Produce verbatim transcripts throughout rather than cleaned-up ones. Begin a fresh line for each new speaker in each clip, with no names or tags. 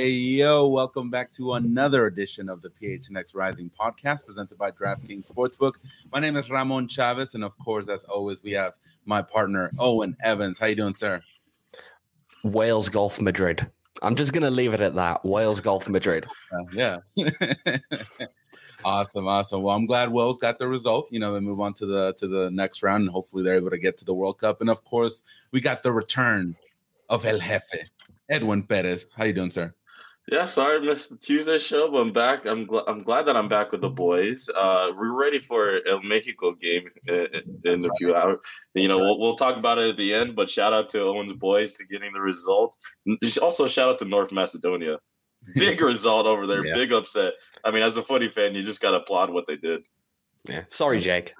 Hey, yo, welcome back to another edition of the P H N X Rising podcast presented by DraftKings Sportsbook. My name is Ramon Chavez, and of course, as always, we have my partner, Owen Evans. How you doing, sir?
Wales Golf Madrid. I'm just going to leave it at that. Wales Golf Madrid.
Uh, yeah. Awesome, awesome. Well, I'm glad Wales got the result. You know, they move on to the to the next round, and hopefully they're able to get to the World Cup. And of course, we got the return of El Jefe, Edwin Perez. How you doing, sir?
Yeah, sorry I missed the Tuesday show, but I'm back. I'm gl- I'm glad that I'm back with the boys. Uh, we're ready for El Mexico game in, in a few hours. You
That's
know,
right.
we'll we'll talk about it at the end. But shout out to Owen's boys to getting the result. Also, shout out to North Macedonia. Big result over there.
Yeah.
Big upset. I mean, as a footy fan, you just got to applaud what they did.
Yeah. Sorry, Jake.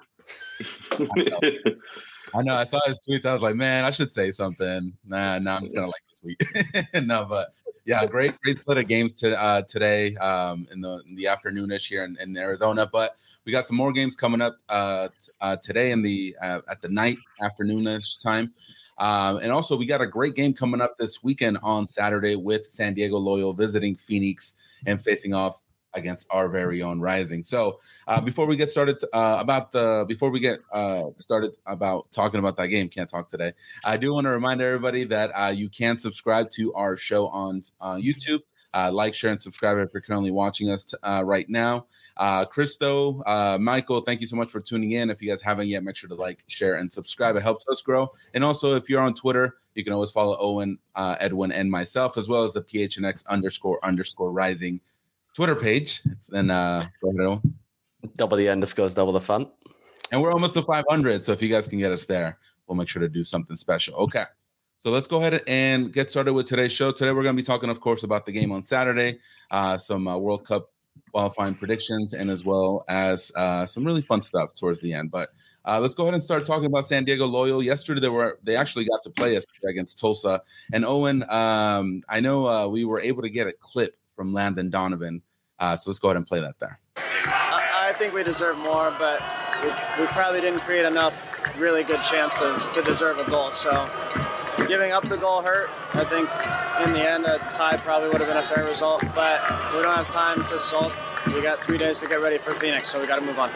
I know. I saw his tweets. I was like, man, I should say something. Nah, nah, I'm just gonna like this tweet. No, but yeah, great, great split of games to uh, today um, in the in the afternoonish here in, in Arizona. But we got some more games coming up uh, t- uh, today in the uh, at the night afternoonish time. Um, and also, we got a great game coming up this weekend on Saturday with San Diego Loyal visiting Phoenix and facing off against our very own Rising. So uh, before we get started uh, about the before we get uh, started about talking about that game, can't talk today. I do want to remind everybody that uh, you can subscribe to our show on uh, YouTube. Uh, like, share, and subscribe if you're currently watching us t- uh, right now. Uh, Christo, uh, Michael, thank you so much for tuning in. If you guys haven't yet, make sure to like, share, and subscribe. It helps us grow. And also, if you're on Twitter, you can always follow Owen, uh, Edwin, and myself, as well as the P H N X underscore underscore Rising Twitter page. It's then uh, go ahead, Owen.
Double the underscores, double the fun.
And we're almost to five hundred. So if you guys can get us there, we'll make sure to do something special. Okay. So let's go ahead and get started with today's show. Today, we're going to be talking, of course, about the game on Saturday, uh, some uh, World Cup qualifying predictions, and as well as uh, some really fun stuff towards the end. But uh, let's go ahead and start talking about San Diego Loyal. Yesterday, they were they actually got to play yesterday against Tulsa. And Owen, um, I know uh, we were able to get a clip from Landon Donovan. Uh, so let's go ahead and play that there.
I, I think we deserve more, but we, we probably didn't create enough really good chances to deserve a goal. So giving up the goal hurt. I think in the end, a tie probably would have been a fair result, but we don't have time to sulk. We got three days to get ready for Phoenix, so we got to move on.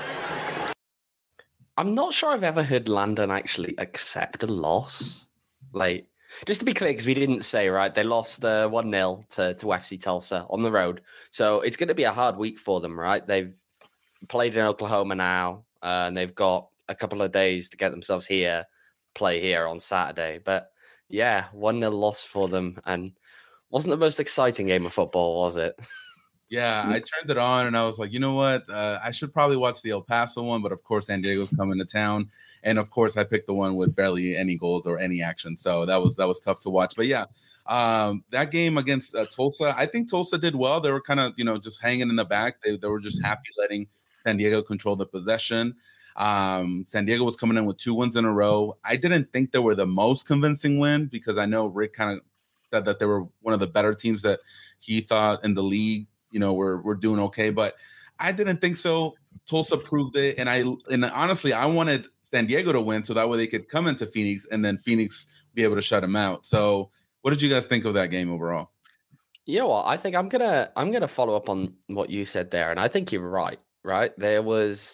I'm not sure I've ever heard Landon actually accept a loss. Like, just to be clear, because we didn't say, right, they lost uh, one nil to, to F C Tulsa on the road. So it's going to be a hard week for them, right? They've played in Oklahoma now, uh, and they've got a couple of days to get themselves here, play here on Saturday. But yeah, one nil loss for them, and wasn't the most exciting game of football, was it?
Yeah, I turned it on and I was like, you know what? Uh, I should probably watch the El Paso one, but of course, San Diego's coming to town, and of course, I picked the one with barely any goals or any action, so that was that was tough to watch. But yeah, um, that game against uh, Tulsa, I think Tulsa did well. They were kind of you know just hanging in the back. They they were just happy letting San Diego control the possession. Um, San Diego was coming in with two wins in a row. I didn't think they were the most convincing win because I know Rick kind of said that they were one of the better teams that he thought in the league. You know, we're we're doing okay, but I didn't think so. Tulsa proved it, and I and honestly, I wanted San Diego to win so that way they could come into Phoenix and then Phoenix be able to shut them out. So, what did you guys think of that game overall?
You know what? I think I'm gonna I'm gonna follow up on what you said there, and I think you're right. Right, there was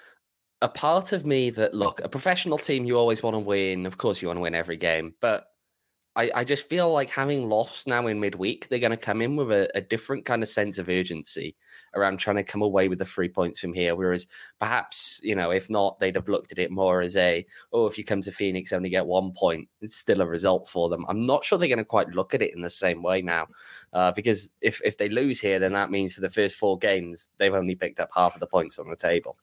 a part of me that look, a professional team, you always want to win. Of course, you want to win every game, but I, I just feel like having lost now in midweek, they're going to come in with a, a different kind of sense of urgency around trying to come away with the three points from here. Whereas perhaps, you know, if not, they'd have looked at it more as a, oh, if you come to Phoenix, only get one point, it's still a result for them. I'm not sure they're going to quite look at it in the same way now, uh, because if, if they lose here, then that means for the first four games, they've only picked up half of the points on the table.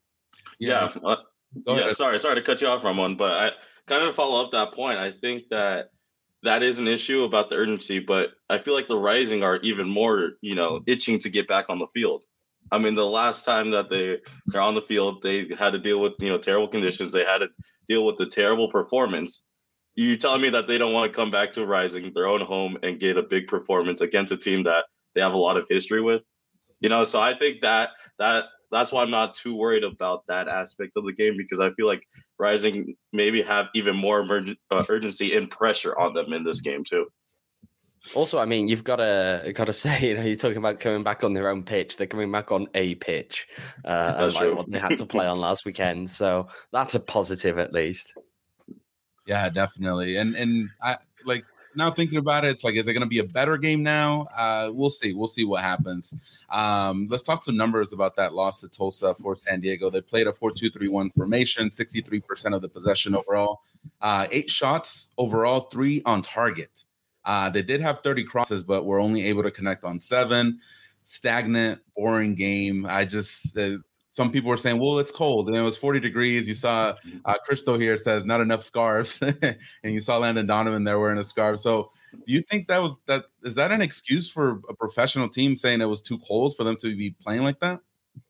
Yeah. Uh, yeah. Sorry, sorry to cut you off, Ramon, but I kind of follow up that point. I think that that is an issue about the urgency, but I feel like the Rising are even more, you know, itching to get back on the field. I mean, the last time that they, they're on the field, they had to deal with, you know, terrible conditions. They had to deal with the terrible performance. You telling me that they don't want to come back to Rising, their own home, and get a big performance against a team that they have a lot of history with? You know, so I think that that that's why I'm not too worried about that aspect of the game, because I feel like Rising maybe have even more emergent, uh, urgency and pressure on them in this game too.
Also, I mean, you've got to got to say, you know, you're talking about coming back on their own pitch. They're coming back on a pitch, uh,
That's
unlike
true.
what they had to play on last weekend. So that's a positive, at least.
Yeah, definitely. And and I like now thinking about it, it's like, is it going to be a better game now? Uh, we'll see. We'll see what happens. Um, let's talk some numbers about that loss to Tulsa for San Diego. They played a four two three one formation, sixty-three percent of the possession overall, uh, eight shots overall, three on target. Uh, they did have thirty crosses, but were only able to connect on seven. Stagnant, boring game. I just, uh, some people were saying, well, it's cold. And it was forty degrees. You saw uh, Cristo here says not enough scarves. And you saw Landon Donovan there wearing a scarf. So do you think that was, that is that an excuse for a professional team saying it was too cold for them to be playing like that?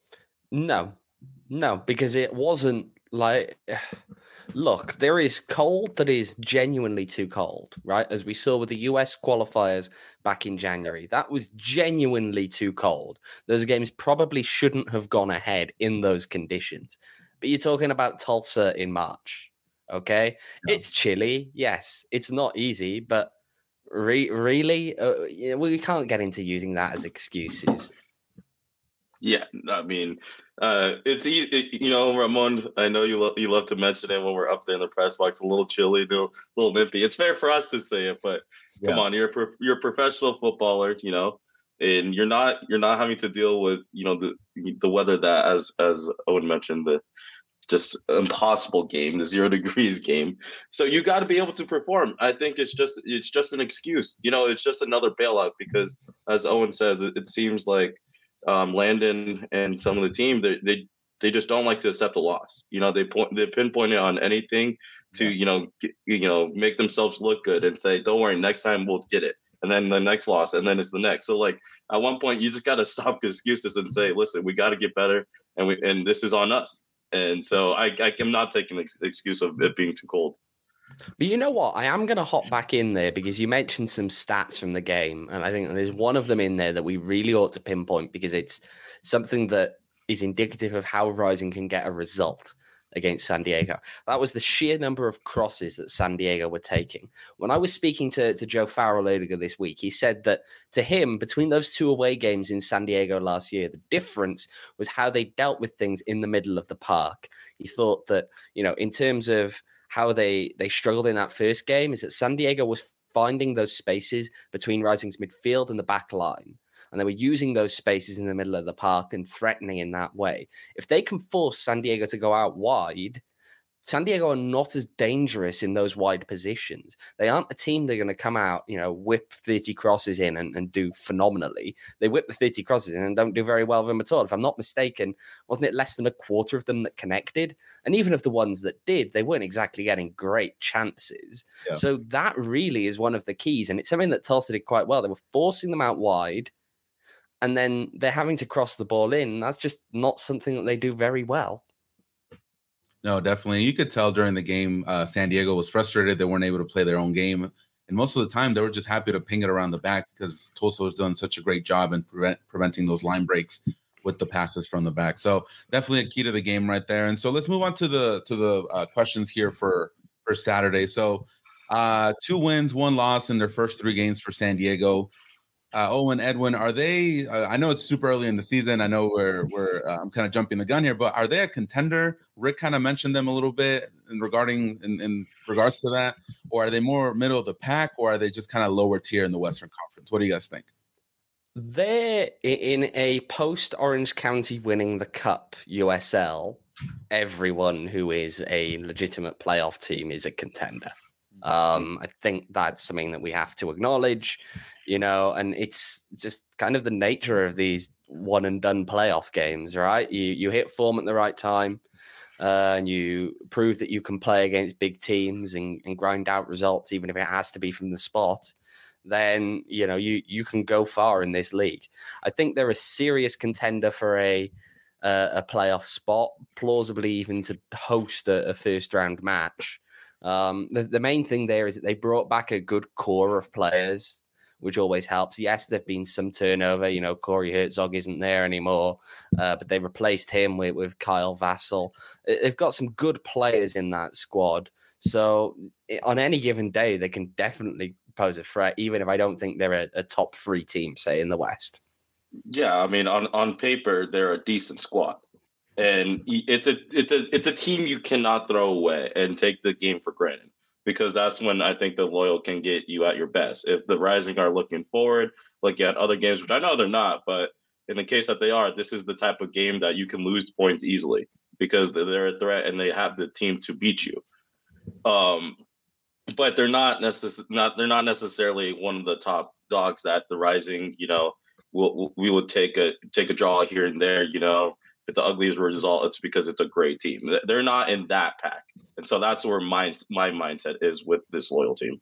No, no, because it wasn't like, look, there is cold that is genuinely too cold, right? As we saw with the U S qualifiers back in January, that was genuinely too cold. Those games probably shouldn't have gone ahead in those conditions. But you're talking about Tulsa in March, okay? No. It's chilly, yes. It's not easy, but re- really, uh, you know, we can't get into using that as excuses.
Yeah, I mean, uh, it's easy, you know, Ramon. I know you love you love to mention it when we're up there in the press box. A little chilly, a little nippy. It's fair for us to say it, but yeah. Come on, you're a pro- you're a professional footballer, you know, and you're not you're not having to deal with you know the the weather that as as Owen mentioned the just impossible game, the zero degrees game. So you got to be able to perform. I think it's just it's just an excuse, you know. It's just another bailout because, as Owen says, it, it seems like. Um, Landon and some of the team, they, they they just don't like to accept a loss. You know, they point they pinpoint it on anything to yeah. you know get, you know make themselves look good and say, "Don't worry, next time we'll get it." And then the next loss, and then it's the next. So like at one point, you just got to stop excuses and say, "Listen, we got to get better, and we and this is on us." And so I I am not taking the excuse of it being too cold.
But you know what? I am going to hop back in there because you mentioned some stats from the game. And I think there's one of them in there that we really ought to pinpoint because it's something that is indicative of how Rising can get a result against San Diego. That was the sheer number of crosses that San Diego were taking. When I was speaking to, to Joe Farrell earlier this week, he said that to him, between those two away games in San Diego last year, the difference was how they dealt with things in the middle of the park. He thought that, you know, in terms of how they, they struggled in that first game is that San Diego was finding those spaces between Rising's midfield and the back line. And they were using those spaces in the middle of the park and threatening in that way. If they can force San Diego to go out wide, San Diego are not as dangerous in those wide positions. They aren't a team that are going to come out, you know, whip thirty crosses in and, and do phenomenally. They whip the thirty crosses in and don't do very well with them at all. If I'm not mistaken, wasn't it less than a quarter of them that connected? And even of the ones that did, they weren't exactly getting great chances. Yeah. So that really is one of the keys. And it's something that Tulsa did quite well. They were forcing them out wide and then they're having to cross the ball in. That's just not something that they do very well.
No, definitely. You could tell during the game, uh, San Diego was frustrated. They weren't able to play their own game. And most of the time, they were just happy to ping it around the back because Tulsa was doing such a great job in prevent, preventing those line breaks with the passes from the back. So definitely a key to the game right there. And so let's move on to the to the uh, questions here for, for Saturday. So uh, two wins, one loss in their first three games for San Diego. Uh, Owen, Edwin, are they? Uh, I know it's super early in the season. I know we're we're uh, I'm kind of jumping the gun here, but are they a contender? Rick kind of mentioned them a little bit in regarding in, in regards to that, or are they more middle of the pack, or are they just kind of lower tier in the Western Conference? What do you guys think?
They're in a post Orange County winning the Cup U S L. Everyone who is a legitimate playoff team is a contender. Um, I think that's something that we have to acknowledge, you know, and it's just kind of the nature of these one and done playoff games, right? You you hit form at the right time uh, and you prove that you can play against big teams and, and grind out results, even if it has to be from the spot. Then, you know, you, you can go far in this league. I think they're a serious contender for a uh, a playoff spot, plausibly even to host a, a first round match. Um, the, the main thing there is that they brought back a good core of players, which always helps. Yes, there've been some turnover. You know, Corey Herzog isn't there anymore, uh, but they replaced him with, with Kyle Vassell. They've got some good players in that squad. So on any given day, they can definitely pose a threat, even if I don't think they're a, a top three team, say, in the West.
Yeah, I mean, on, on paper, they're a decent squad. And it's a it's a it's a team you cannot throw away and take the game for granted, because that's when I think the Loyal can get you at your best. If the Rising are looking forward, looking at other games, which I know they're not, but in the case that they are, this is the type of game that you can lose points easily because they're a threat and they have the team to beat you. Um, but they're not necess- not they're not necessarily one of the top dogs that the Rising, you know, will we would take a take a draw here and there, you know. If it's the ugliest result, it's because it's a great team. They're not in that pack. And so that's where my, my mindset is with this Loyal team.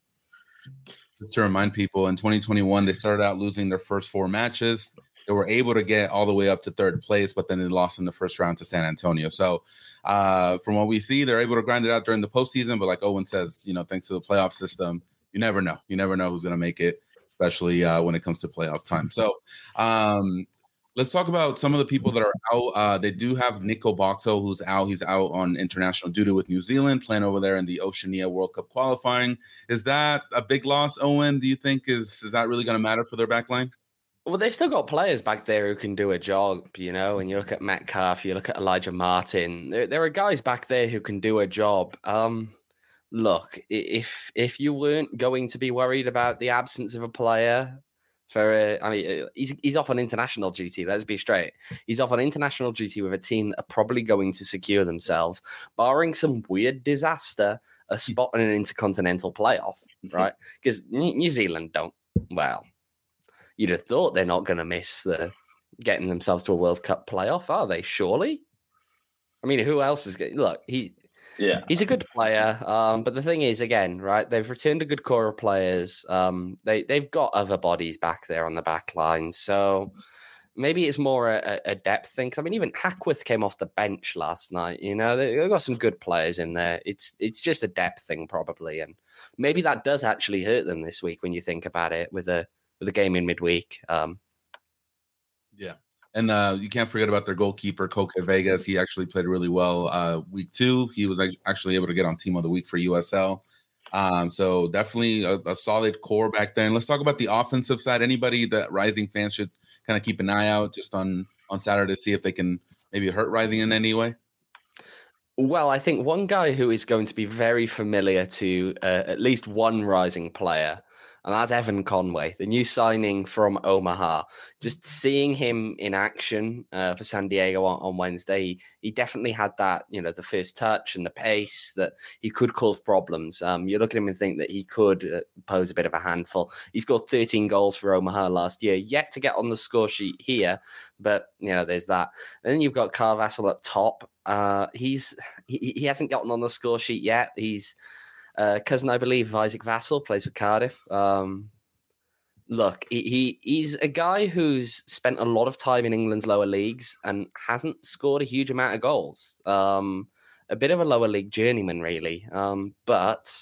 Just to remind people, in twenty twenty-one, they started out losing their first four matches. They were able to get all the way up to third place, but then they lost in the first round to San Antonio. So uh, from what we see, they're able to grind it out during the postseason. But like Owen says, you know, thanks to the playoff system, you never know. You never know who's going to make it, especially uh, when it comes to playoff time. So um, let's talk about some of the people that are out. Uh, they do have Nico Boxall, who's out. He's out on international duty with New Zealand, playing over there in the Oceania World Cup qualifying. Is that a big loss, Owen? Do you think is, is that really going to matter for their back line?
Well, they've still got players back there who can do a job, you know, and you look at Metcalf, you look at Elijah Martin. There, there are guys back there who can do a job. Um, look, if if you weren't going to be worried about the absence of a player for, uh, I mean, he's he's off on international duty. Let's be straight. He's off on international duty with a team that are probably going to secure themselves, barring some weird disaster, a spot in an intercontinental playoff, right? Because New Zealand don't, well, you'd have thought they're not going to miss the getting themselves to a World Cup playoff, are they? Surely. I mean, who else is going? Look, he, yeah, he's a good player. Um, but the thing is, again, right? They've returned a good core of players. Um, they they've got other bodies back there on the back line, so maybe it's more a, a depth thing. Because I mean, even Hackworth came off the bench last night. You know, they, they've got some good players in there. It's it's just a depth thing probably, and maybe that does actually hurt them this week when you think about it with a. with a game in midweek. Um,
yeah. And uh, you can't forget about their goalkeeper, Koke Vegas. He actually played really well uh, week two. He was actually able to get on Team of the Week for U S L. Um, so definitely a, a solid core back then. Let's talk about the offensive side. Anybody that Rising fans should kind of keep an eye out just on, on Saturday to see if they can maybe hurt Rising in any way?
Well, I think one guy who is going to be very familiar to uh, at least one Rising player, and that's Evan Conway, the new signing from Omaha. Just seeing him in action uh, for San Diego on, on Wednesday, he, he definitely had that, you know, the first touch and the pace that he could cause problems. Um, you look at him and think that he could uh, pose a bit of a handful. He scored thirteen goals for Omaha last year, yet to get on the score sheet here. But, you know, there's that. And then you've got Carl Vassell up top. Uh, he's he, he hasn't gotten on the score sheet yet. He's Uh, cousin, I believe, of Isaac Vassell, plays for Cardiff. Um, look, he, he he's a guy who's spent a lot of time in England's lower leagues and hasn't scored a huge amount of goals. Um, a bit of a lower league journeyman, really. Um, but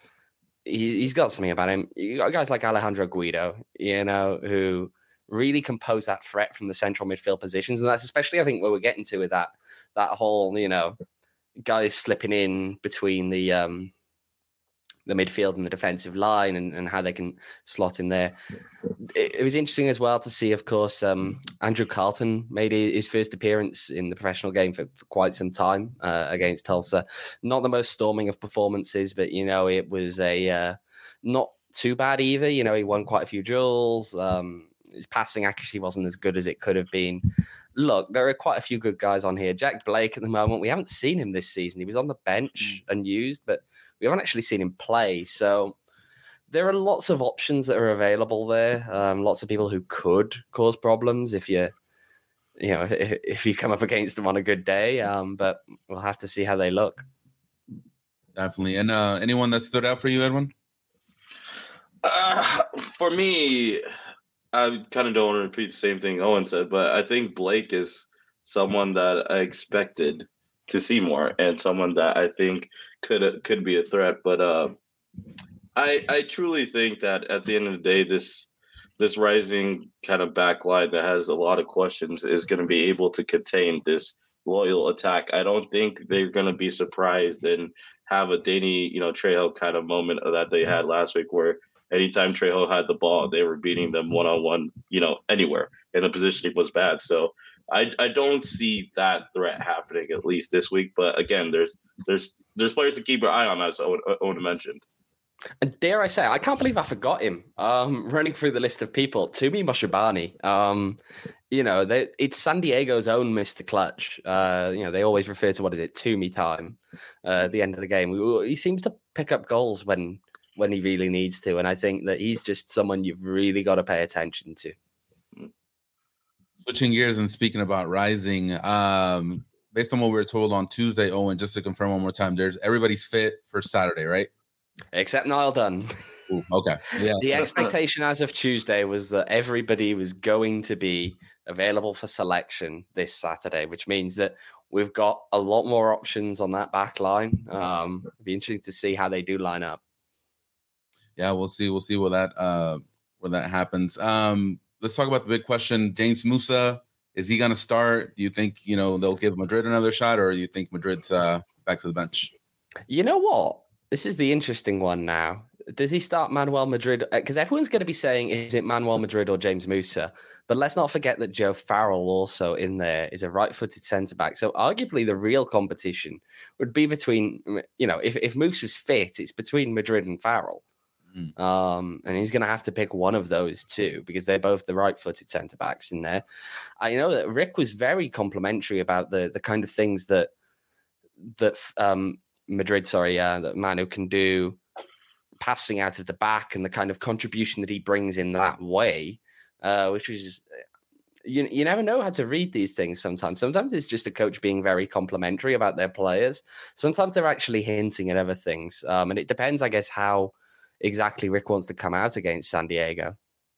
he, he's got something about him. You got guys like Alejandro Guido, you know, who really can pose that threat from the central midfield positions. And that's especially, I think, where we're getting to with that, that whole, you know, guys slipping in between the... Um, the midfield and the defensive line and, and how they can slot in there. It, it was interesting as well to see, of course, um, Andrew Carlton made his first appearance in the professional game for, for quite some time uh, against Tulsa. Not the most storming of performances, but, you know, it was a uh, not too bad either. You know, he won quite a few duels. Um, his passing accuracy wasn't as good as it could have been. Look, there are quite a few good guys on here. Jack Blake at the moment, we haven't seen him this season. He was on the bench and used, but we haven't actually seen him play. So there are lots of options that are available there. Um, lots of people who could cause problems if you, you know, if, if you come up against them on a good day. Um, but we'll have to see how they look.
Definitely. And uh, anyone that stood out for you, Edwin?
Uh, for me, I kind of don't want to repeat the same thing Owen said, but I think Blake is someone that I expected to see more and someone that I think could could be a threat. But uh, I I truly think that at the end of the day, this this Rising kind of back line that has a lot of questions is going to be able to contain this Loyal attack. I don't think they're going to be surprised and have a Danny, you know, Trejo kind of moment that they had last week where anytime Trejo had the ball, they were beating them one on one, you know, anywhere, and the positioning was bad. So I I don't see that threat happening at least this week. But again, there's there's there's players to keep your eye on, as Owen, Owen mentioned.
And dare I say, I can't believe I forgot him. Um, running through the list of people, Tumi Moshobani. Um, you know, they, it's San Diego's own Mister Clutch. Uh, you know, they always refer to what is it, Tumi time uh, at the end of the game. He seems to pick up goals when when he really needs to, and I think that he's just someone you've really got to pay attention to.
Switching gears and speaking about Rising, um, based on what we were told on Tuesday, Owen, just to confirm one more time, there's everybody's fit for Saturday, right?
Except Niall Dunn.
Ooh, okay. Yeah.
The expectation as of Tuesday was that everybody was going to be available for selection this Saturday, which means that we've got a lot more options on that back line. Um, it'd be interesting to see how they do line up.
Yeah, we'll see. We'll see where that uh, where that happens. Um, let's talk about the big question. James Musa, is he going to start? Do you think, you know, they'll give Madrid another shot, or do you think Madrid's uh, back to the bench?
You know what? This is the interesting one now. Does he start Manuel Madrid? Because everyone's going to be saying, is it Manuel Madrid or James Musa? But let's not forget that Joe Farrell also in there is a right-footed centre-back. So arguably the real competition would be between, you know, if, if Musa's fit, it's between Madrid and Farrell. Mm. Um, and he's going to have to pick one of those two because they're both the right-footed centre-backs in there. I know that Rick was very complimentary about the the kind of things that that um, Madrid, sorry, uh, that Manu can do, passing out of the back and the kind of contribution that he brings in that way, uh, which is, you you never know how to read these things sometimes. Sometimes it's just a coach being very complimentary about their players. Sometimes they're actually hinting at other things. Um, and it depends, I guess, how exactly Rick wants to come out against San Diego.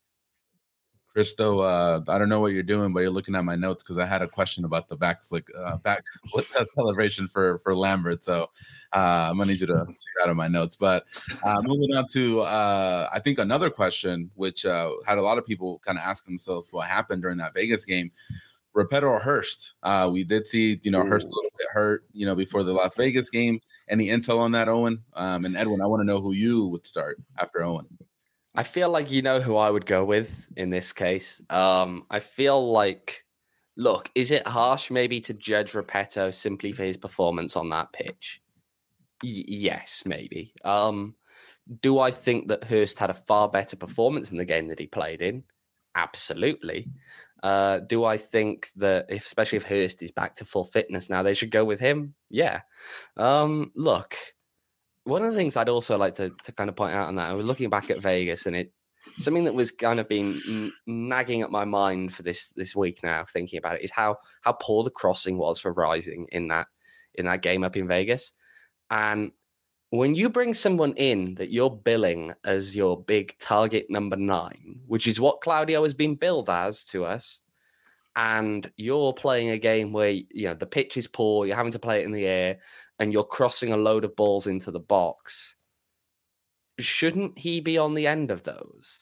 Christo, uh, I don't know what you're doing, but you're looking at my notes because I had a question about the back flick, uh, back flip celebration for for Lambert. So uh, I'm gonna need you to take it out of my notes. But uh, moving on to, uh, I think another question, which uh, had a lot of people kind of ask themselves what happened during that Vegas game. Repetto or Hurst? Uh, we did see, you know, Ooh. Hurst a little bit hurt, you know, before the Las Vegas game. Any intel on that, Owen? Um, and Edwin, I want to know who you would start after Owen.
I feel like you know who I would go with in this case. Um, I feel like, look, is it harsh maybe to judge Repetto simply for his performance on that pitch? Y- yes, maybe. Um, do I think that Hurst had a far better performance in the game that he played in? Absolutely. Uh, do I think that, if, especially if Hurst is back to full fitness now, they should go with him? Yeah. Um, look. One of the things I'd also like to, to kind of point out on that, I was looking back at Vegas, and it something that was kind of been n- nagging at my mind for this this week now, thinking about it, is how how poor the crossing was for Rising in that in that game up in Vegas. And when you bring someone in that you're billing as your big target number nine, which is what Claudio has been billed as to us, and you're playing a game where, you know, the pitch is poor, you're having to play it in the air, and you're crossing a load of balls into the box, shouldn't he be on the end of those?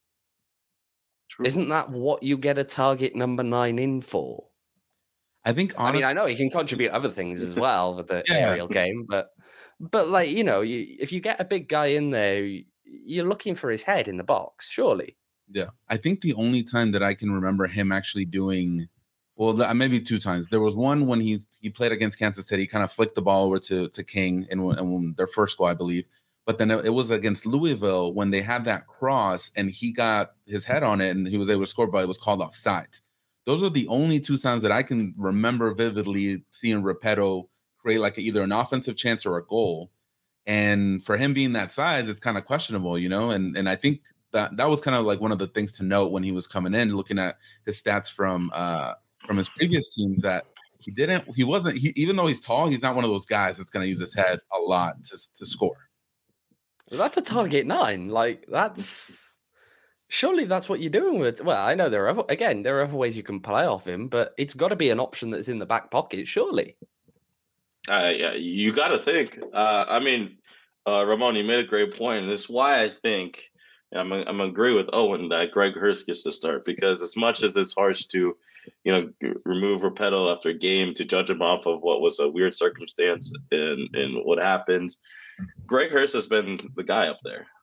True. Isn't that what you get a target number nine in for?
I think, honestly,
I mean, I know he can contribute other things as well with the yeah. aerial game, but, but like, you know, you, if you get a big guy in there, you're looking for his head in the box, surely.
Yeah. I think the only time that I can remember him actually doing, well, maybe two times. There was one when he he played against Kansas City, kind of flicked the ball over to, to King in, in their first goal, I believe. But then it was against Louisville when they had that cross and he got his head on it and he was able to score, but it was called offside. Those are the only two times that I can remember vividly seeing Repetto create like either an offensive chance or a goal. And for him being that size, it's kind of questionable, you know? And and I think that that was kind of like one of the things to note when he was coming in, looking at his stats from uh, from his previous teams, that he didn't, he wasn't, he, even though he's tall, he's not one of those guys that's going to use his head a lot to to score.
Well, that's a target nine. Like, that's, surely that's what you're doing with, well, I know there are, other, again, there are other ways you can play off him, but it's got to be an option that's in the back pocket, surely.
Uh, yeah, you got to think. Uh, I mean, uh, Ramon, you made a great point, and it's why I think, I'm I'm agree with Owen that Greg Hurst gets to start, because as much as it's harsh to, you know, remove Repetto after a game to judge him off of what was a weird circumstance and and what happened, Greg Hurst has been the guy up there.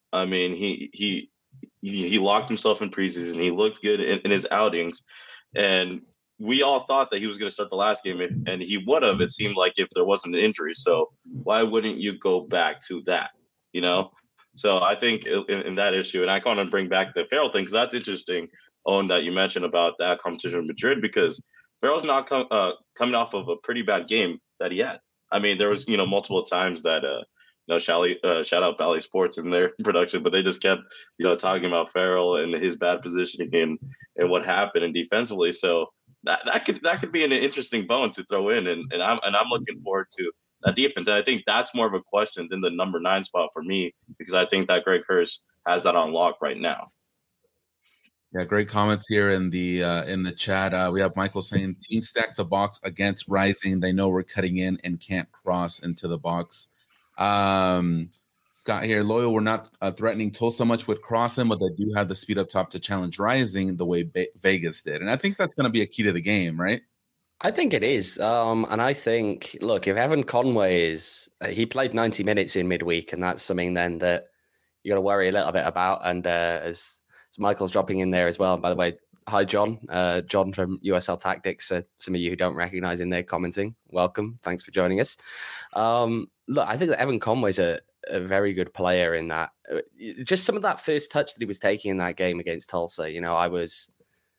I mean, he he he, he locked himself in preseason. He looked good in, in his outings, and we all thought that he was going to start the last game, and he would have. It seemed like if there wasn't an injury. So why wouldn't you go back to that? You know. So I think in, in that issue, and I kind of bring back the Ferrell thing because that's interesting. Owen, that you mentioned about that competition with Madrid, because Ferrell's not com- uh, coming off of a pretty bad game that he had. I mean, there was you know multiple times that uh, you know Shally, uh, shout out Bally Sports in their production, but they just kept you know talking about Ferrell and his bad positioning and and what happened and defensively. So that that could that could be an interesting bone to throw in, and and I'm and I'm looking forward to that defense. And I think that's more of a question than the number nine spot for me, because I think that Greg Hurst has that on lock right now.
Yeah, great comments here in the uh, in the chat. Uh, we have Michael saying, "Team stack the box against Rising. They know we're cutting in and can't cross into the box." Um, Scott here, Loyal, we're not uh, threatening Tulsa much with crossing, but they do have the speed up top to challenge Rising the way Be- Vegas did, and I think that's going to be a key to the game, right?
I think it is, um, and I think, look, if Evan Conway is, uh, he played ninety minutes in midweek, and that's something then that you got to worry a little bit about. And uh, as So Michael's dropping in there as well. And by the way, hi, John. Uh, John from U S L Tactics. Uh, some of you who don't recognize him there commenting, welcome. Thanks for joining us. Um, look, I think that Evan Conway's a, a very good player in that. Just some of that first touch that he was taking in that game against Tulsa, you know, I was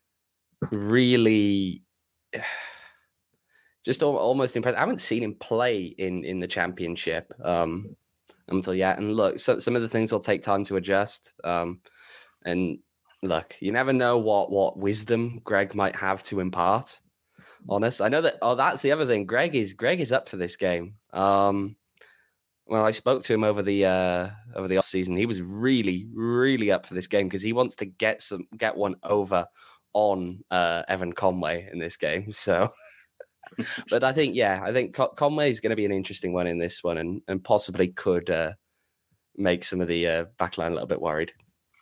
really just almost impressed. I haven't seen him play in, in the championship um, until yet. And look, so, some of the things will take time to adjust. Um, And look, you never know what what wisdom Greg might have to impart on us. I know that. Oh, that's the other thing. Greg is Greg is up for this game. Um, when I spoke to him over the uh, over the off season, he was really really up for this game because he wants to get some get one over on uh, Evan Conway in this game. So, but I think yeah, I think Con- Conway is going to be an interesting one in this one, and and possibly could uh, make some of the uh, backline a little bit worried.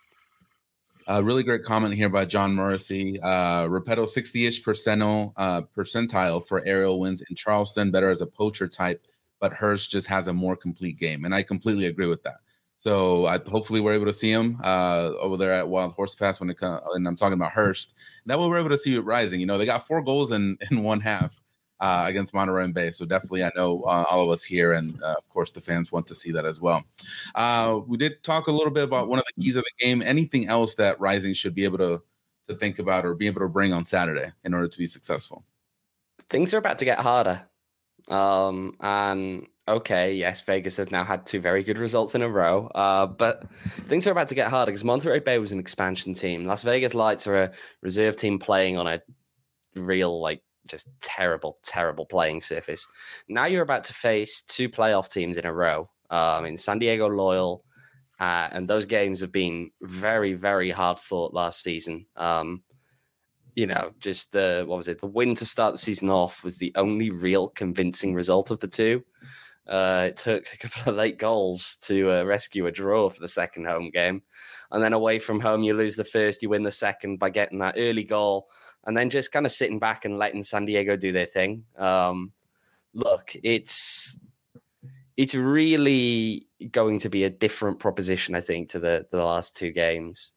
A uh, really great comment here by John Morrissey. Uh, Repetto sixty-ish percentile, uh, percentile for aerial wins in Charleston, better as a poacher type, but Hurst just has a more complete game. And I completely agree with that. So I, hopefully we're able to see him uh, over there at Wild Horse Pass when it comes, and I'm talking about Hurst. That way we're able to see it Rising. You know, they got four goals in, in one half uh, against Monterey and Bay. So definitely I know uh, all of us here and, uh, of course, the fans want to see that as well. Uh, we did talk a little bit about one of the keys of the game. Anything else that Rising should be able to, to think about or be able to bring on Saturday in order to be successful?
Things are about to get harder. Um, and okay, yes, Vegas have now had two very good results in a row, uh, but things are about to get harder because Monterey Bay was an expansion team. Las Vegas Lights are a reserve team playing on a real, like, just terrible, terrible playing surface. Now you're about to face two playoff teams in a row um, in San Diego Loyal, uh, and those games have been very, very hard fought last season. Um, you know, just the, what was it? The win to start the season off was the only real convincing result of the two. Uh, it took a couple of late goals to uh, rescue a draw for the second home game. And then away from home, you lose the first, you win the second by getting that early goal. And then just kind of sitting back and letting San Diego do their thing. Um, look, it's it's really going to be a different proposition, I think, to the, the last two games.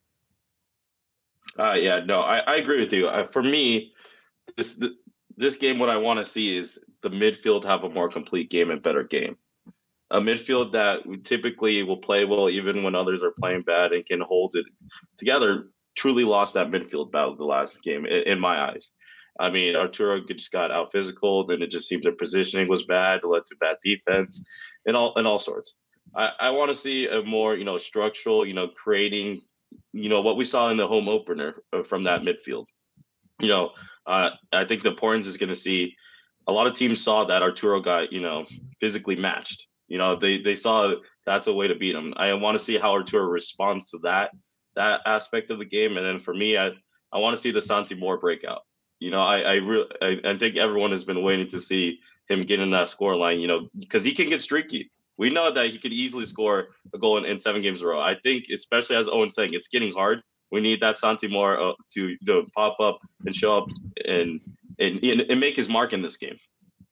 Uh, yeah, no, I, I agree with you. Uh, for me, this this game, what I want to see is the midfield have a more complete game and better game. A midfield that typically will play well even when others are playing bad and can hold it together. Truly lost that midfield battle the last game, in, in my eyes. I mean, Arturo just got out physical, and it just seemed their positioning was bad, it led to bad defense, and all and all sorts. I, I want to see a more, you know, structural, you know, creating, you know, what we saw in the home opener from that midfield. You know, uh, I think the importance is going to see a lot of teams saw that Arturo got, you know, physically matched. You know, they they saw that's a way to beat him. I want to see how Arturo responds to that. that aspect of the game. And then for me, I, I want to see the Santi Moore breakout. You know, I I, re- I I think everyone has been waiting to see him get in that score line, you know, because he can get streaky. We know that he could easily score a goal in, in seven games in a row. I think, especially as Owen's saying, it's getting hard. We need that Santi Moore uh, to, you know, pop up and show up and, and and make his mark in this game.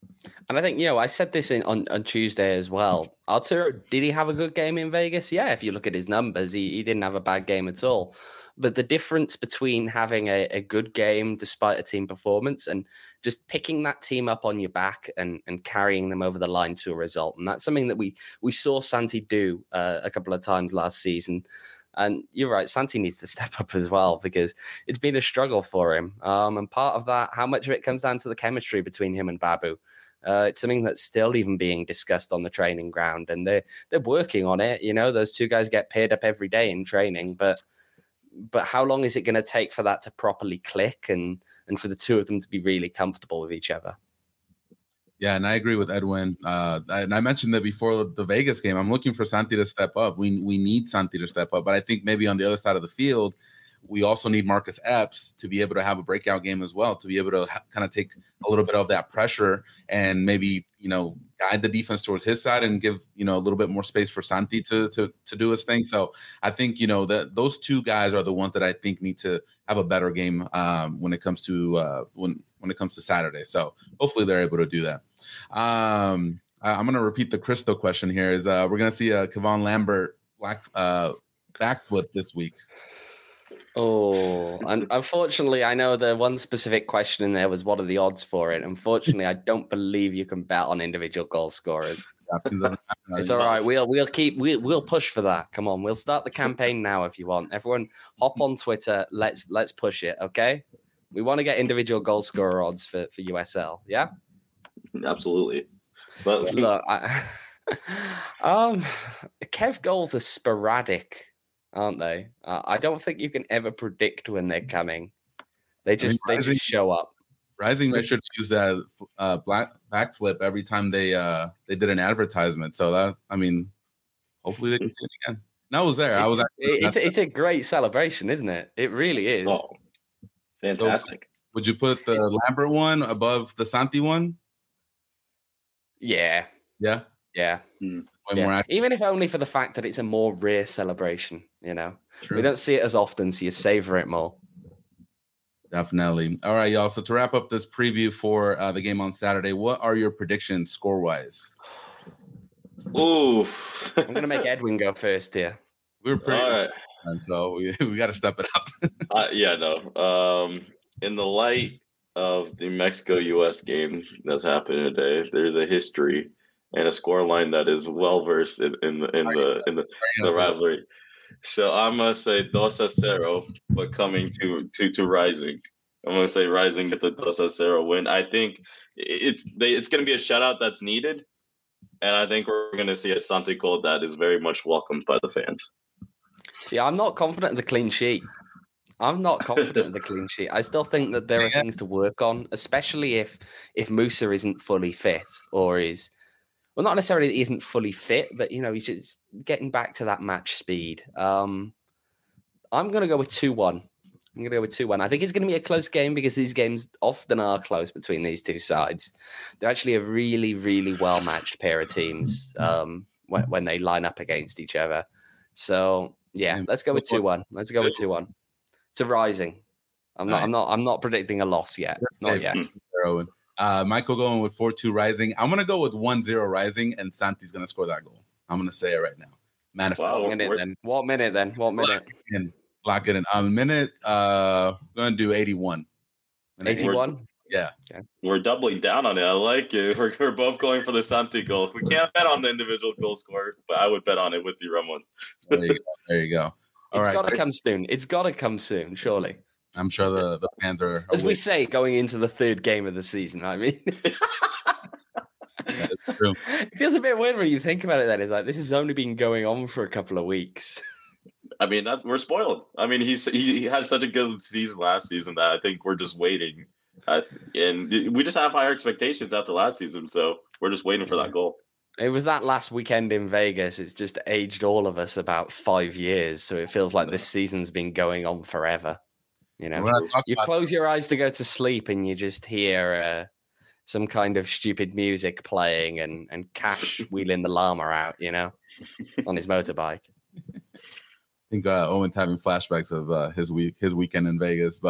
And I think, you know, I said this in, on, on Tuesday as well. Arturo, did he have a good game in Vegas? Yeah, if you look at his numbers, he, he didn't have a bad game at all. But the difference between having a, a good game despite a team performance and just picking that team up on your back and, and carrying them over the line to a result. And that's something that we we saw Santi do uh, a couple of times last season. And you're right, Santi needs to step up as well because it's been a struggle for him. Um, and part of that, how much of it comes down to the chemistry between him and Babu. Uh, it's something that's still even being discussed on the training ground, and they're they're working on it. You know, those two guys get paired up every day in training, but but how long is it going to take for that to properly click and and for the two of them to be really comfortable with each other?
Yeah, and I agree with Edwin. Uh, and I mentioned that before the Vegas game. I'm looking for Santi to step up. We we need Santi to step up, but I think maybe on the other side of the field, we also need Marcus Epps to be able to have a breakout game as well, to be able to ha- kind of take a little bit of that pressure and maybe, you know, guide the defense towards his side and give, you know, a little bit more space for Santi to to to do his thing. So I think, you know, that those two guys are the ones that I think need to have a better game um, when it comes to uh, when when it comes to Saturday. So hopefully they're able to do that. Um, I, I'm going to repeat the Cristo question here. Is uh, we're going to see a Kevon Lambert black uh, backflip this week.
Oh, and unfortunately, I know the one specific question in there was what are the odds for it. Unfortunately, I don't believe you can bet on individual goal scorers. It's all right. We'll we'll keep we'll we'll push for that. Come on, we'll start the campaign now if you want. Everyone, hop on Twitter. Let's let's push it. Okay, we want to get individual goal scorer odds for for U S L. Yeah,
absolutely. But
look, I, um, Kev goals are sporadic, aren't they? Uh, I don't think you can ever predict when they're coming. They just I mean, Rising, they just show up.
Rising they should use that uh, black backflip every time they uh they did an advertisement. So that I mean, hopefully they can see it again. And I was there.
It's,
I was.
Actually, it's it's a great celebration, isn't it? It really is.
Oh, fantastic!
So would you put the Lambert one above the Santi one?
Yeah.
Yeah.
Yeah.
Hmm.
Yeah. Even if only for the fact that it's a more rare celebration, you know.
True.
We don't see it as often, so you savor it more.
Definitely. All right, y'all. So to wrap up this preview for uh, the game on Saturday, what are your predictions score-wise?
Ooh.
I'm going to make Edwin go first here.
We were pretty
All right.
And so we, we got to step it up.
uh, yeah, no. Um, in the light of the Mexico-U S game that's happening today, there's a history and a score line that is well versed in, in the in the in the, the rivalry. So I'm gonna say dos a cero, but coming to to to Rising. I'm gonna say Rising get the dos a cero win. I think it's they it's gonna be a shutout that's needed, and I think we're gonna see a Santi goal that is very much welcomed by the fans.
See, I'm not confident in the clean sheet. I'm not confident in the clean sheet. I still think that there are things to work on, especially if if Musa isn't fully fit or is. Well, not necessarily that he isn't fully fit, but, you know, he's just getting back to that match speed. Um, I'm going to go with two one. I'm going to go with two one. I think it's going to be a close game because these games often are close between these two sides. They're actually a really, really well-matched pair of teams um, when, when they line up against each other. So, yeah, let's go with two one. Let's go with two one. To Rising. I'm not, I'm not, I'm not predicting a loss yet. Not yet.
Uh, Michael going with four two Rising. I'm going to go with one zero Rising, and Santi's going to score that goal. I'm going to say it right now. Manifest.
Wow, what, minute, then? what minute then? What minute?
Lock it in. Lock it in. Um, minute, uh, we're going to do eighty-one.
eighty-one?
Yeah.
Okay. We're doubling down on it. I like it. We're, we're both going for the Santi goal. We can't bet on the individual goal scorer, but I would bet on it with you, Ramon.
There you go. There you go. All
it's
right.
got to come soon. It's got to come soon, surely.
I'm sure the, the fans are, are
as we say, going into the third game of the season. I mean,
that's true.
It feels a bit weird when you think about it. Then it's like this has only been going on for a couple of weeks.
I mean, that's we're spoiled. I mean, he's he, he had such a good season last season that I think we're just waiting, uh, and we just have higher expectations after last season. So we're just waiting for that goal.
It was that last weekend in Vegas. It's just aged all of us about five years. So it feels like this season's been going on forever. You know, you close your eyes to go to sleep and you just hear uh, some kind of stupid music playing and, and Cash wheeling the llama out, you know, on his motorbike.
I think uh, Owen's having flashbacks of uh, his week, his weekend in Vegas. But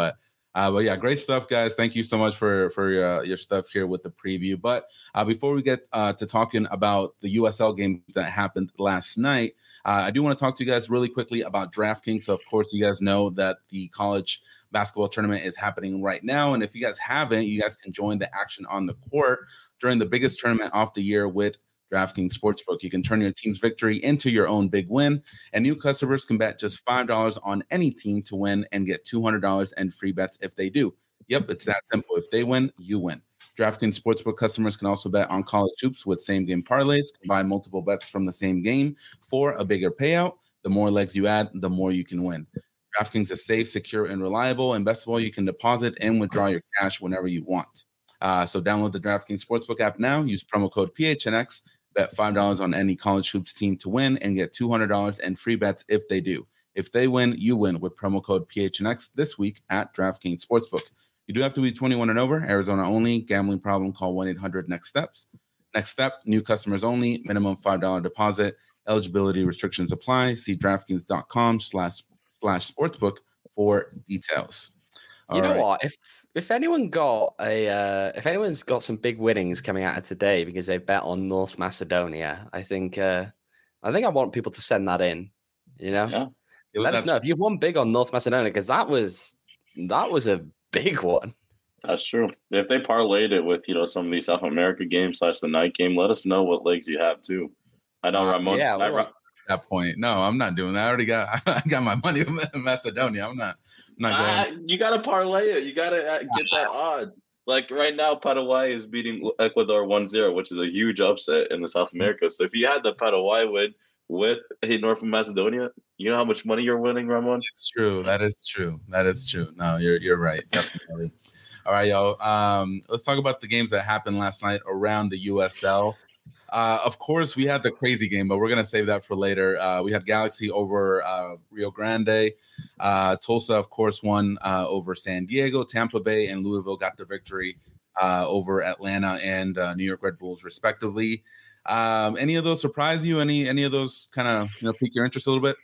Uh, but yeah, great stuff, guys. Thank you so much for for your, your stuff here with the preview. But uh, before we get uh, to talking about the U S L game that happened last night, uh, I do want to talk to you guys really quickly about DraftKings. So, of course, you guys know that the college basketball tournament is happening right now. And if you guys haven't, you guys can join the action on the court during the biggest tournament of the year with DraftKings Sportsbook. You can turn your team's victory into your own big win, and new customers can bet just five dollars on any team to win and get two hundred dollars in free bets if they do. Yep, it's that simple. If they win, you win. DraftKings Sportsbook customers can also bet on college hoops with same-game parlays, combine multiple bets from the same game for a bigger payout. The more legs you add, the more you can win. DraftKings is safe, secure, and reliable, and best of all, you can deposit and withdraw your cash whenever you want. Uh, so download the DraftKings Sportsbook app now. Use promo code P H N X. Bet five dollars on any college hoops team to win and get two hundred dollars in free bets if they do. If they win, you win with promo code P H N X this week at DraftKings Sportsbook. You do have to be twenty-one and over, Arizona only. Gambling problem, call one eight hundred next steps. Next step, new customers only, minimum five dollars deposit. Eligibility restrictions apply. See DraftKings.com slash slash sportsbook for details.
All you know right. what? If if anyone got a uh, if anyone's got some big winnings coming out of today because they bet on North Macedonia, I think uh, I think I want people to send that in. You know,
yeah.
Let us know if you've won big on North Macedonia, because that was that was a big one.
That's true. If they parlayed it with, you know, some of these South America games slash the night game, let us know what legs you have too. I know uh, Ramon.
Yeah,
I,
well,
that point. No, I'm not doing that. I already got I got my money in Macedonia. I'm not. I'm not going.
Uh, you got to parlay it. You got to get that odds. Like right now, Paraguay is beating Ecuador one zero, which is a huge upset in the South America. So if you had the Paraguay win with a North Macedonia, you know how much money you're winning, Ramon?
It's true. That is true. That is true. No, you're you're right. Definitely. All right, y'all. Um, let's talk about the games that happened last night around the U S L. Uh, of course, we had the crazy game, but we're going to save that for later. Uh, we had Galaxy over uh, Rio Grande. Uh, Tulsa, of course, won uh, over San Diego. Tampa Bay and Louisville got the victory uh, over Atlanta and uh, New York Red Bulls, respectively. Um, any of those surprise you? Any any of those kind of you know pique your interest a little bit?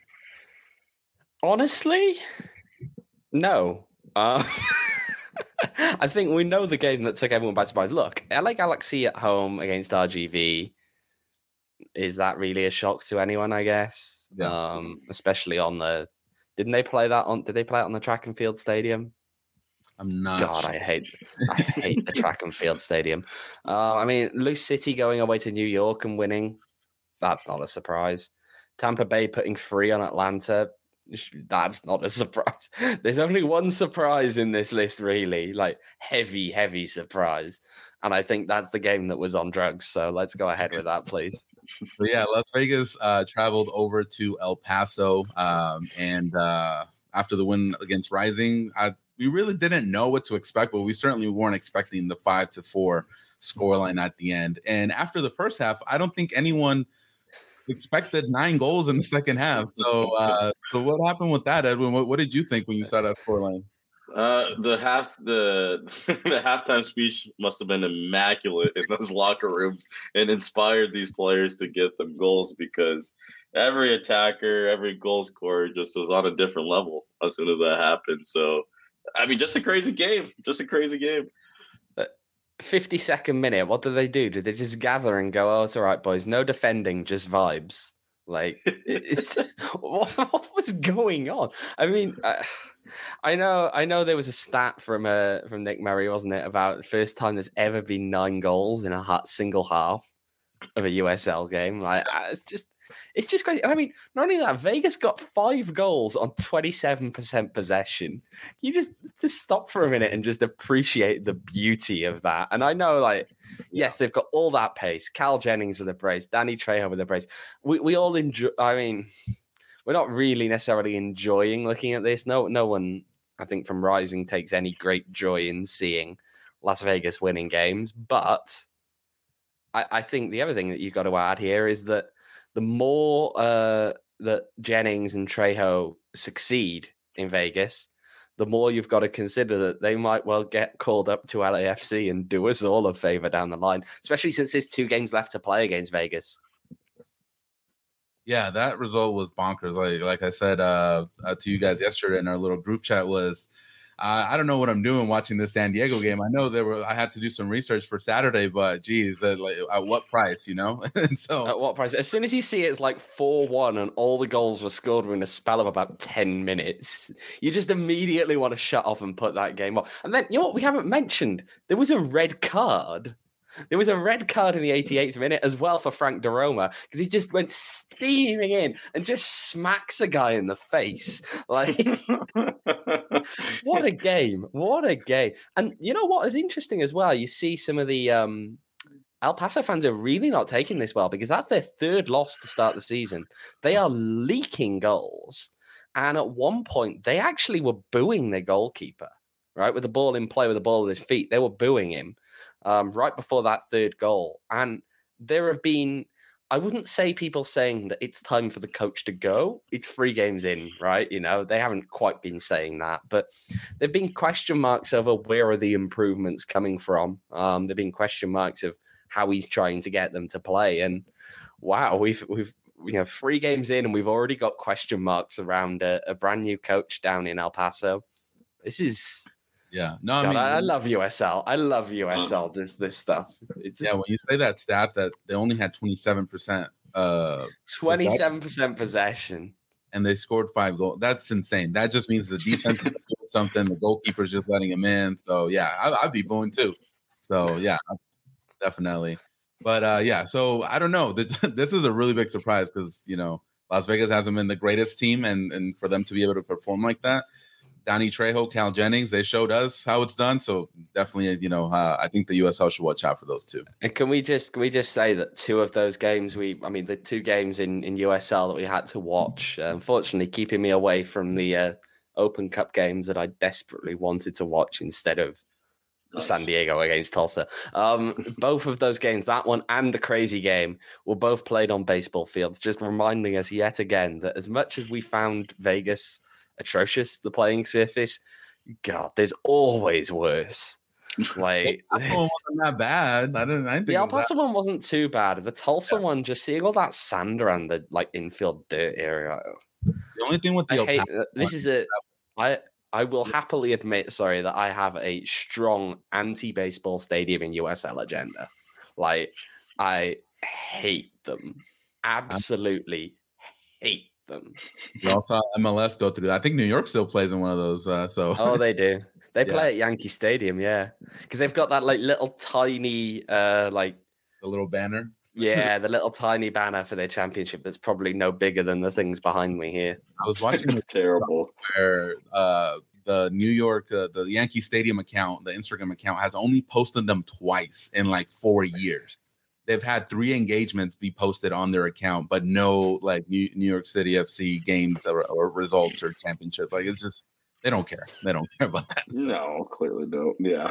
Honestly, no. Uh, I think we know the game that took everyone by surprise. Look, L A Galaxy at home against R G V. Is that really a shock to anyone? I guess, yeah. um, especially on the. Didn't they play that on? Did they play it on the track and field stadium?
I'm not.
God,
sure.
I hate. I hate the track and field stadium. Uh, I mean, Loose City going away to New York and winning. That's not a surprise. Tampa Bay putting three on Atlanta. That's not a surprise. There's only one surprise in this list, really, like heavy, heavy surprise. And I think that's the game that was on drugs. So let's go ahead with that, please.
But yeah, Las Vegas uh, traveled over to El Paso. Um, and uh, after the win against Rising, I, we really didn't know what to expect, but we certainly weren't expecting the five to four scoreline at the end. And after the first half, I don't think anyone expected nine goals in the second half. So, uh, so what happened with that, Edwin? What, what did you think when you saw that scoreline?
Uh, the half the the halftime speech must have been immaculate in those locker rooms and inspired these players to get them goals, because every attacker, every goal scorer just was on a different level as soon as that happened. So, I mean, just a crazy game, just a crazy game.
fifty-second minute, what did they do? Did they just gather and go, oh, it's all right, boys, no defending, just vibes? Like, it's, what, what was going on? I mean, I, I know I know there was a stat from uh, from Nick Murray, wasn't it, about the first time there's ever been nine goals in a hot, single half of a U S L game. Like, it's just... It's just crazy. And I mean, not only that, Vegas got five goals on twenty-seven percent possession. Can you just, just stop for a minute and just appreciate the beauty of that? And I know, like, yes, they've got all that pace. Cal Jennings with a brace, Danny Trejo with a brace. We we all enjoy. I mean, we're not really necessarily enjoying looking at this. No, no one, I think, from Rising takes any great joy in seeing Las Vegas winning games. But I, I think the other thing that you've got to add here is that the more uh, that Jennings and Trejo succeed in Vegas, the more you've got to consider that they might well get called up to L A F C and do us all a favor down the line, especially since there's two games left to play against Vegas.
Yeah, that result was bonkers. Like like I said uh, uh, to you guys yesterday in our little group chat, was uh, I don't know what I'm doing watching this San Diego game. I know there were I had to do some research for Saturday, but geez, uh, like, at what price, you know? And so
at what price? As soon as you see it's like four one and all the goals were scored within a spell of about ten minutes, you just immediately want to shut off and put that game off. And then you know what we haven't mentioned? There was a red card. There was a red card in the eighty-eighth minute as well for Frank DeRoma because he just went steaming in and just smacks a guy in the face. Like, what a game. What a game. And you know what is interesting as well? You see some of the um, El Paso fans are really not taking this well because that's their third loss to start the season. They are leaking goals. And at one point, they actually were booing their goalkeeper, right? With the ball in play, with the ball at his feet. They were booing him. Um, right before that third goal. And there have been, I wouldn't say people saying that it's time for the coach to go. It's three games in, right? You know, they haven't quite been saying that, but there've been question marks over where are the improvements coming from. Um, there've been question marks of how he's trying to get them to play. And wow, we've, we've, you know, three games in and we've already got question marks around a, a brand new coach down in El Paso. This is...
Yeah, no, I
God,
mean,
I, I love U S L. I love U S L. This this stuff. It's
yeah. When you say that stat that they only had twenty-seven percent, uh,
twenty-seven percent possession,
and they scored five goals. That's insane. That just means the defense is doing something. The goalkeeper's just letting him in. So yeah, I, I'd be booing too. So yeah, definitely. But uh, yeah, so I don't know. This is a really big surprise because you know Las Vegas hasn't been the greatest team, and and for them to be able to perform like that. Danny Trejo, Cal Jennings, they showed us how it's done. So definitely, you know, uh, I think the U S L should watch out for those two.
And can we just can we just say that two of those games, we, I mean, the two games in, in U S L that we had to watch, uh, unfortunately, keeping me away from the uh, Open Cup games that I desperately wanted to watch instead of nice. San Diego against Tulsa. Um, both of those games, that one and the crazy game, were both played on baseball fields, just reminding us yet again that as much as we found Vegas atrocious, the playing surface, God, there's always worse. Like
the Tulsa one wasn't that bad. I didn't. I didn't think
the El Paso one wasn't too bad. The Tulsa yeah. one, just seeing all that sand around the like infield dirt area.
The only thing with the
I
El
hate,
Paso
this is a. I I will happily admit, sorry, that I have a strong anti-baseball stadium in U S L agenda. Like I hate them, absolutely hate them.
We all saw M L S go through that. I think New York still plays in one of those. Uh, so
oh, they do. They play yeah. at Yankee Stadium, yeah, because they've got that like little tiny, uh, like
the little banner.
Yeah, the little tiny banner for their championship that's probably no bigger than the things behind me here.
I was watching
it's terrible.
Where uh, the New York, uh, the Yankee Stadium account, the Instagram account has only posted them twice in like four years. They've had three engagements be posted on their account, but no like New, New York City F C games or, or results or championship. Like it's just they don't care. They don't care about that.
So. No, clearly don't. Yeah.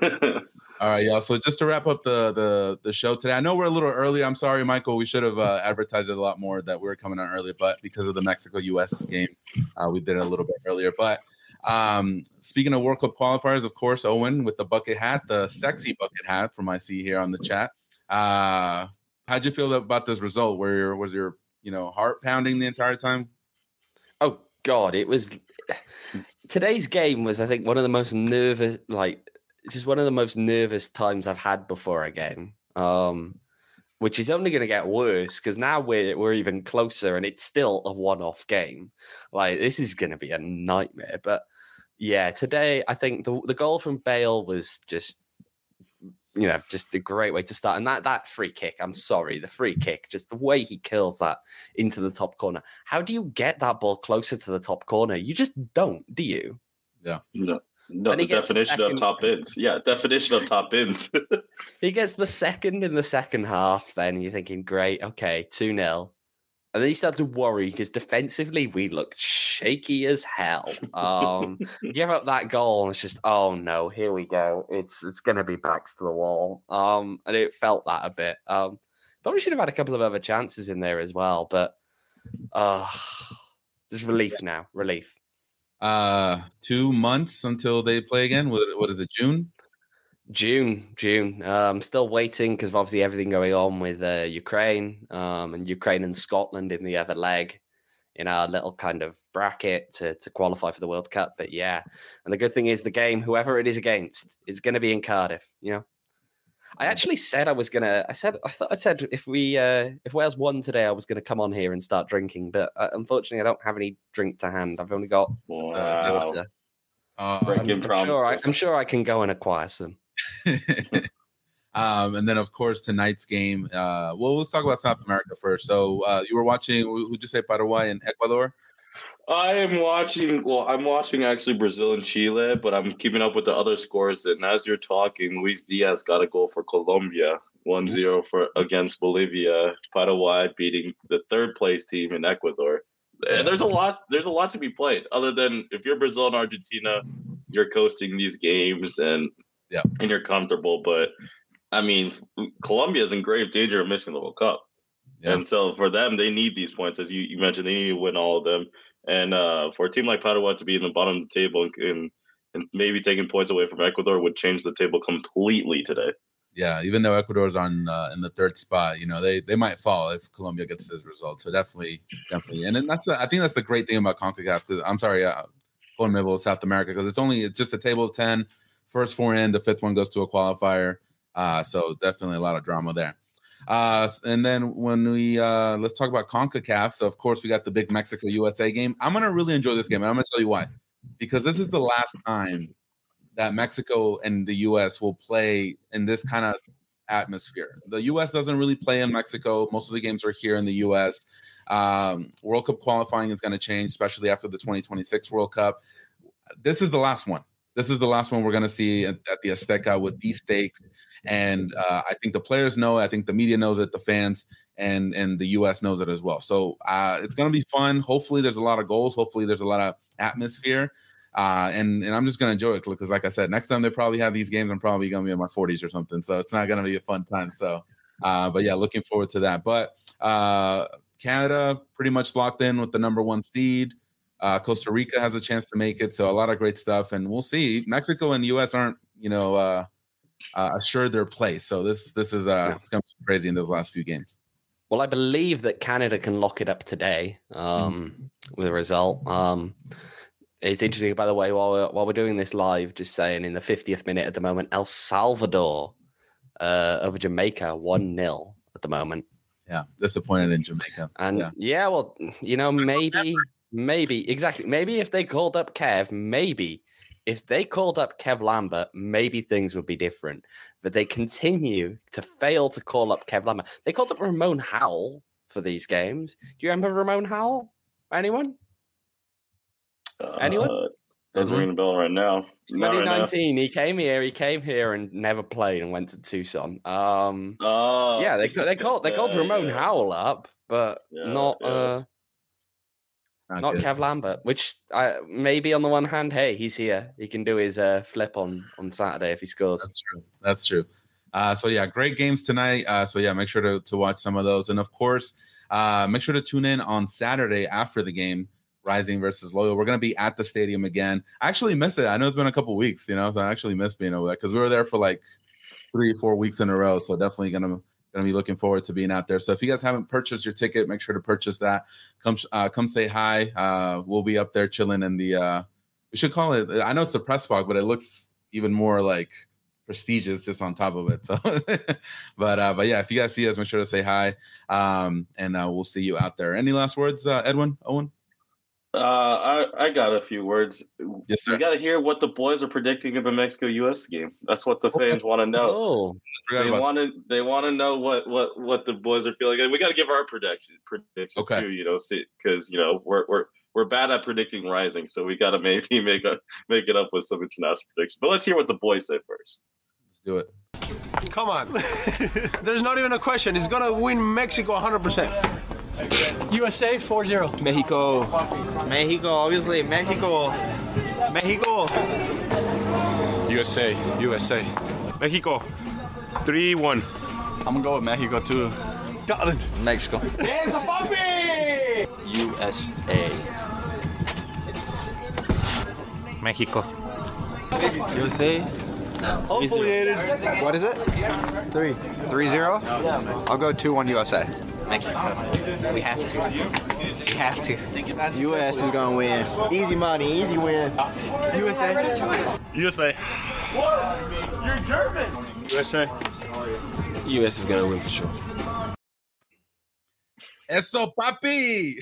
All right, y'all. So just to wrap up the the the show today, I know we're a little early. I'm sorry, Michael. We should have uh, advertised it a lot more that we were coming on earlier, but because of the Mexico U S game, uh, we did it a little bit earlier. But um, speaking of World Cup qualifiers, of course, Owen with the bucket hat, the sexy bucket hat from I see here on the chat. Uh, how'd you feel about this result? Where your, was your, you know, heart pounding the entire time?
Oh God, it was. Today's game was, I think, one of the most nervous, like, just one of the most nervous times I've had before a game. Um, which is only going to get worse because now we're we're even closer, and it's still a one-off game. Like this is going to be a nightmare. But yeah, today I think the the goal from Bale was just. You know, just a great way to start. And that that free kick, I'm sorry, the free kick, just the way he kills that into the top corner. How do you get that ball closer to the top corner? You just don't, do you?
Yeah.
No, no the definition the of top ins. Yeah, definition of top ins.
He gets the second in the second half, then you're thinking, great, okay, two nil. And then you start to worry because defensively we looked shaky as hell. Um, give up that goal and it's just, oh no, here we go. It's it's going to be backs to the wall. Um, and it felt that a bit. Um, probably should have had a couple of other chances in there as well, but uh, just relief now, relief.
Uh, two months until they play again. What, what is it, June?
June, June. Uh, I'm still waiting because of obviously everything going on with uh, Ukraine um, and Ukraine and Scotland in the other leg in our little kind of bracket to, to qualify for the World Cup. But yeah, and the good thing is the game, whoever it is against, is going to be in Cardiff. You know, I actually said I was gonna. I said I thought I said if we uh, if Wales won today, I was going to come on here and start drinking. But uh, unfortunately, I don't have any drink to hand. I've only got
wow.
uh, water.
Uh,
I'm, I'm, sure I, I'm sure I can go and acquire some.
um, and then, of course, tonight's game. Uh, well, let's talk about South America first. So uh, you were watching, who'd you say, Paraguay and Ecuador?
I am watching, well, I'm watching actually Brazil and Chile, but I'm keeping up with the other scores. And as you're talking, Luis Diaz got a goal for Colombia, one zero for against Bolivia. Paraguay beating the third place team in Ecuador. And there's a lot. There's a lot to be played. Other than if you're Brazil and Argentina, you're coasting these games and
yeah,
and you're comfortable. But I mean, Colombia is in grave danger of missing the World Cup, yeah. And so for them, they need these points, as you, you mentioned. They need to win all of them. And uh, for a team like Paraguay to be in the bottom of the table and, and and maybe taking points away from Ecuador would change the table completely today.
Yeah, even though Ecuador's on uh, in the third spot, you know, they they might fall if Colombia gets this result. So definitely, definitely, and then that's the, I think that's the great thing about CONCACAF. Because I'm sorry, uh, CONMEBOL South America, because it's only it's just a table of ten. First four in, the fifth one goes to a qualifier. Uh, so definitely a lot of drama there. Uh, and then when we uh, let's talk about CONCACAF. So of course we got the big Mexico U S A game. I'm gonna really enjoy this game, and I'm gonna tell you why. Because this is the last time that Mexico and the U S will play in this kind of atmosphere. The U S doesn't really play in Mexico. Most of the games are here in the U S. Um, World Cup qualifying is going to change, especially after the twenty twenty-six World Cup. This is the last one. This is the last one we're going to see at, at the Azteca with these stakes. And uh, I think the players know it. I think the media knows it, the fans, and, and the U S knows it as well. So uh, it's going to be fun. Hopefully there's a lot of goals. Hopefully there's a lot of atmosphere. Uh, and, and I'm just going to enjoy it because, like I said, next time they probably have these games, I'm probably going to be in my forties or something. So it's not going to be a fun time. So, uh, but yeah, looking forward to that. But uh, Canada pretty much locked in with the number one seed. Uh, Costa Rica has a chance to make it. So a lot of great stuff. And we'll see. Mexico and U S aren't, you know, uh, uh, assured their place. So this this is uh, it's going to be crazy in those last few games.
Well, I believe that Canada can lock it up today um, mm-hmm. with a result. Um It's interesting, by the way, while we're, while we're doing this live, just saying in the fiftieth minute at the moment, El Salvador uh, over Jamaica, one nil at the moment.
Yeah, disappointed in Jamaica.
And yeah. yeah, well, you know, maybe, maybe, exactly. Maybe if they called up Kev, maybe if they called up Kev Lambert, maybe things would be different. But they continue to fail to call up Kev Lambert. They called up Ramon Howell for these games. Do you remember Ramon Howell? Anyone? Anyone?
Uh, doesn't mm-hmm. ring a bell right now.
twenty nineteen, right now. He came here. He came here and never played and went to Tucson. Um,
oh,
yeah, they they called they called yeah, Ramon yeah. Howell up, but yeah, not yeah, uh, not, not Kev Lambert. Which I, maybe on the one hand, hey, he's here. He can do his uh, flip on on Saturday if he scores.
That's true. That's true. Uh, so yeah, great games tonight. Uh, so yeah, make sure to to watch some of those, and of course, uh, make sure to tune in on Saturday after the game. Rising versus Loyal. We're going to be at the stadium again. I actually miss it. I know it's been a couple weeks, you know, so I actually miss being over there because we were there for like three, four weeks in a row. So definitely going to going to be looking forward to being out there. So if you guys haven't purchased your ticket, make sure to purchase that. Come, uh, come say hi. Uh, we'll be up there chilling in the. Uh, we should call it. I know it's the press box, but it looks even more like prestigious just on top of it. So, but uh, but yeah, if you guys see us, make sure to say hi. Um, and uh, we'll see you out there. Any last words, uh, Edwin? Owen?
Uh, I, I got a few words.
Yes, sir.
You got to hear what the boys are predicting of the Mexico U S game. That's what the fans want to know.
Oh,
they want to they want to know what, what, what the boys are feeling. And we got to give our prediction predictions
okay.
too. You know, because you know we're we're we're bad at predicting Rising, so we got to maybe make a make it up with some international predictions. But let's hear what the boys say first.
Let's do it.
Come on, there's not even a question. It's gonna win Mexico one hundred percent. U S A four zero.
Mexico. Mexico, obviously. Mexico. Mexico.
U S A. U S A. Mexico. three one.
I'm going to go with Mexico, too.
Got it.
Mexico.
Yes, papi!
U S A.
Mexico.
U S A. Hopefully, Aiden.
What is it? Three. Three zero?
Yeah.
I'll go two one U S A.
Mexico. We have to. We have to.
U S is gonna win. Easy money, easy win.
U S A.
U S A.
What? You're German.
U S A.
U S is gonna win for sure.
Eso, papi.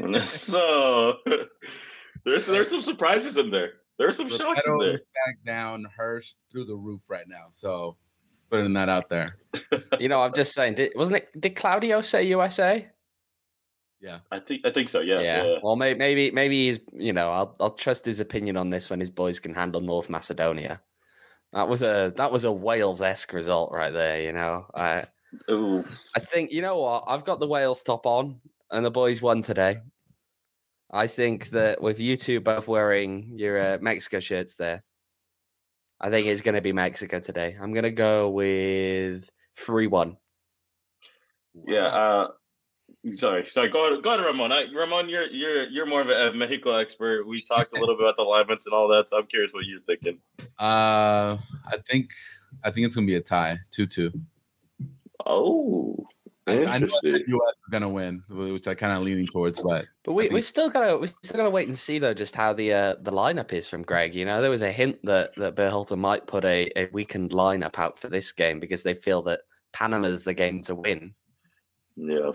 So there's there's some surprises in there. There's some shocks in there.
Back down, Hurst through the roof right now. So putting that out there.
You know, I'm just saying. Did, wasn't it? Did Claudio say U S A?
Yeah,
I think I think so. Yeah.
Yeah.
yeah.
Well, maybe maybe maybe he's. You know, I'll I'll trust his opinion on this when his boys can handle North Macedonia. That was a that was a Wales-esque result right there. You know, I
Ooh.
I think you know what I've got the Wales top on, and the boys won today. I think that with you two both wearing your uh, Mexico shirts there, I think it's going to be Mexico today. I'm going to go with three one.
Yeah. Uh, sorry. Sorry. Go ahead, go ahead, Ramon. I, Ramon, you're you're you're more of a, a Mexico expert. We talked a little bit about the alignments and all that, so I'm curious what you're thinking.
Uh, I think I think it's gonna be a tie, two two.
Oh.
I know
Interesting.
the U S is gonna win, which I kind of leaning towards, but
But we,
think-
we've still got to we still got to wait and see though just how the uh, the lineup is from Greg. You know, there was a hint that that Berhalter might put a, a weakened lineup out for this game because they feel that Panama's the game to win.
Yeah.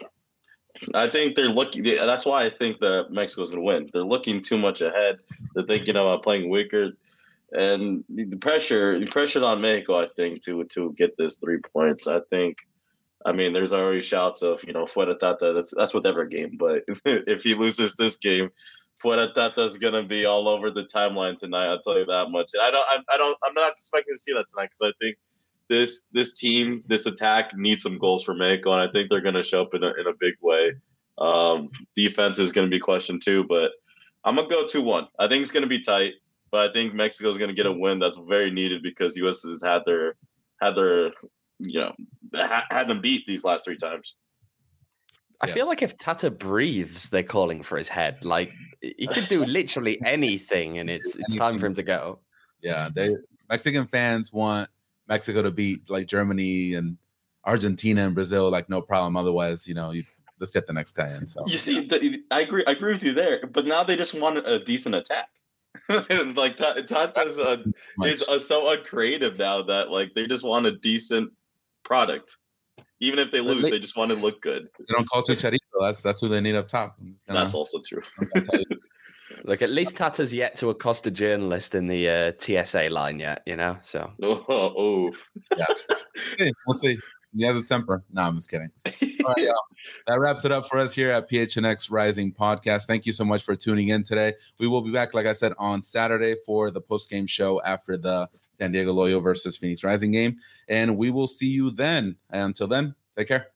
I think they're looking. That's why I think that Mexico's going to win. They're looking too much ahead. They're thinking about playing weaker, and the pressure, the pressure's on Mexico. I think to to get this three points. I think. I mean, there's already shouts of you know Fuera Tata. That's that's with every game. But if he loses this game, Fuera Tata's going to be all over the timeline tonight. I'll tell you that much. And I don't. I, I don't. I'm not expecting to see that tonight because I think. This this team, this attack needs some goals for Mexico, and I think they're going to show up in a, in a big way. Um, defense is going to be questioned too, but I'm going to go two one. I think it's going to be tight, but I think Mexico is going to get a win that's very needed because U S has had their had their you know ha- had them beat these last three times.
I
Yeah.
feel like if Tata breathes, they're calling for his head. Like he could do literally anything, and it's it's time for him to go.
yeah, they Mexican fans want Mexico to beat like Germany and Argentina and Brazil, like no problem. Otherwise, you know, you, let's get the next guy in. So
You see, the, I agree. I agree with you there, but now they just want a decent attack. like Tata's uh, is uh, so uncreative now that like they just want a decent product. Even if they lose, they just want to look good.
They don't call Chicharito. That's that's who they need up top. Gonna,
That's also true.
Look, at least Tata's yet to accost a journalist in the uh, T S A line yet, you know. So
oh, oh.
yeah, hey, we'll see. He has a temper. No, I'm just kidding. All right, y'all. That wraps it up for us here at P H N X Rising Podcast. Thank you so much for tuning in today. We will be back, like I said, on Saturday for the post-game show after the San Diego Loyo versus Phoenix Rising game. And we will see you then. And until then, take care.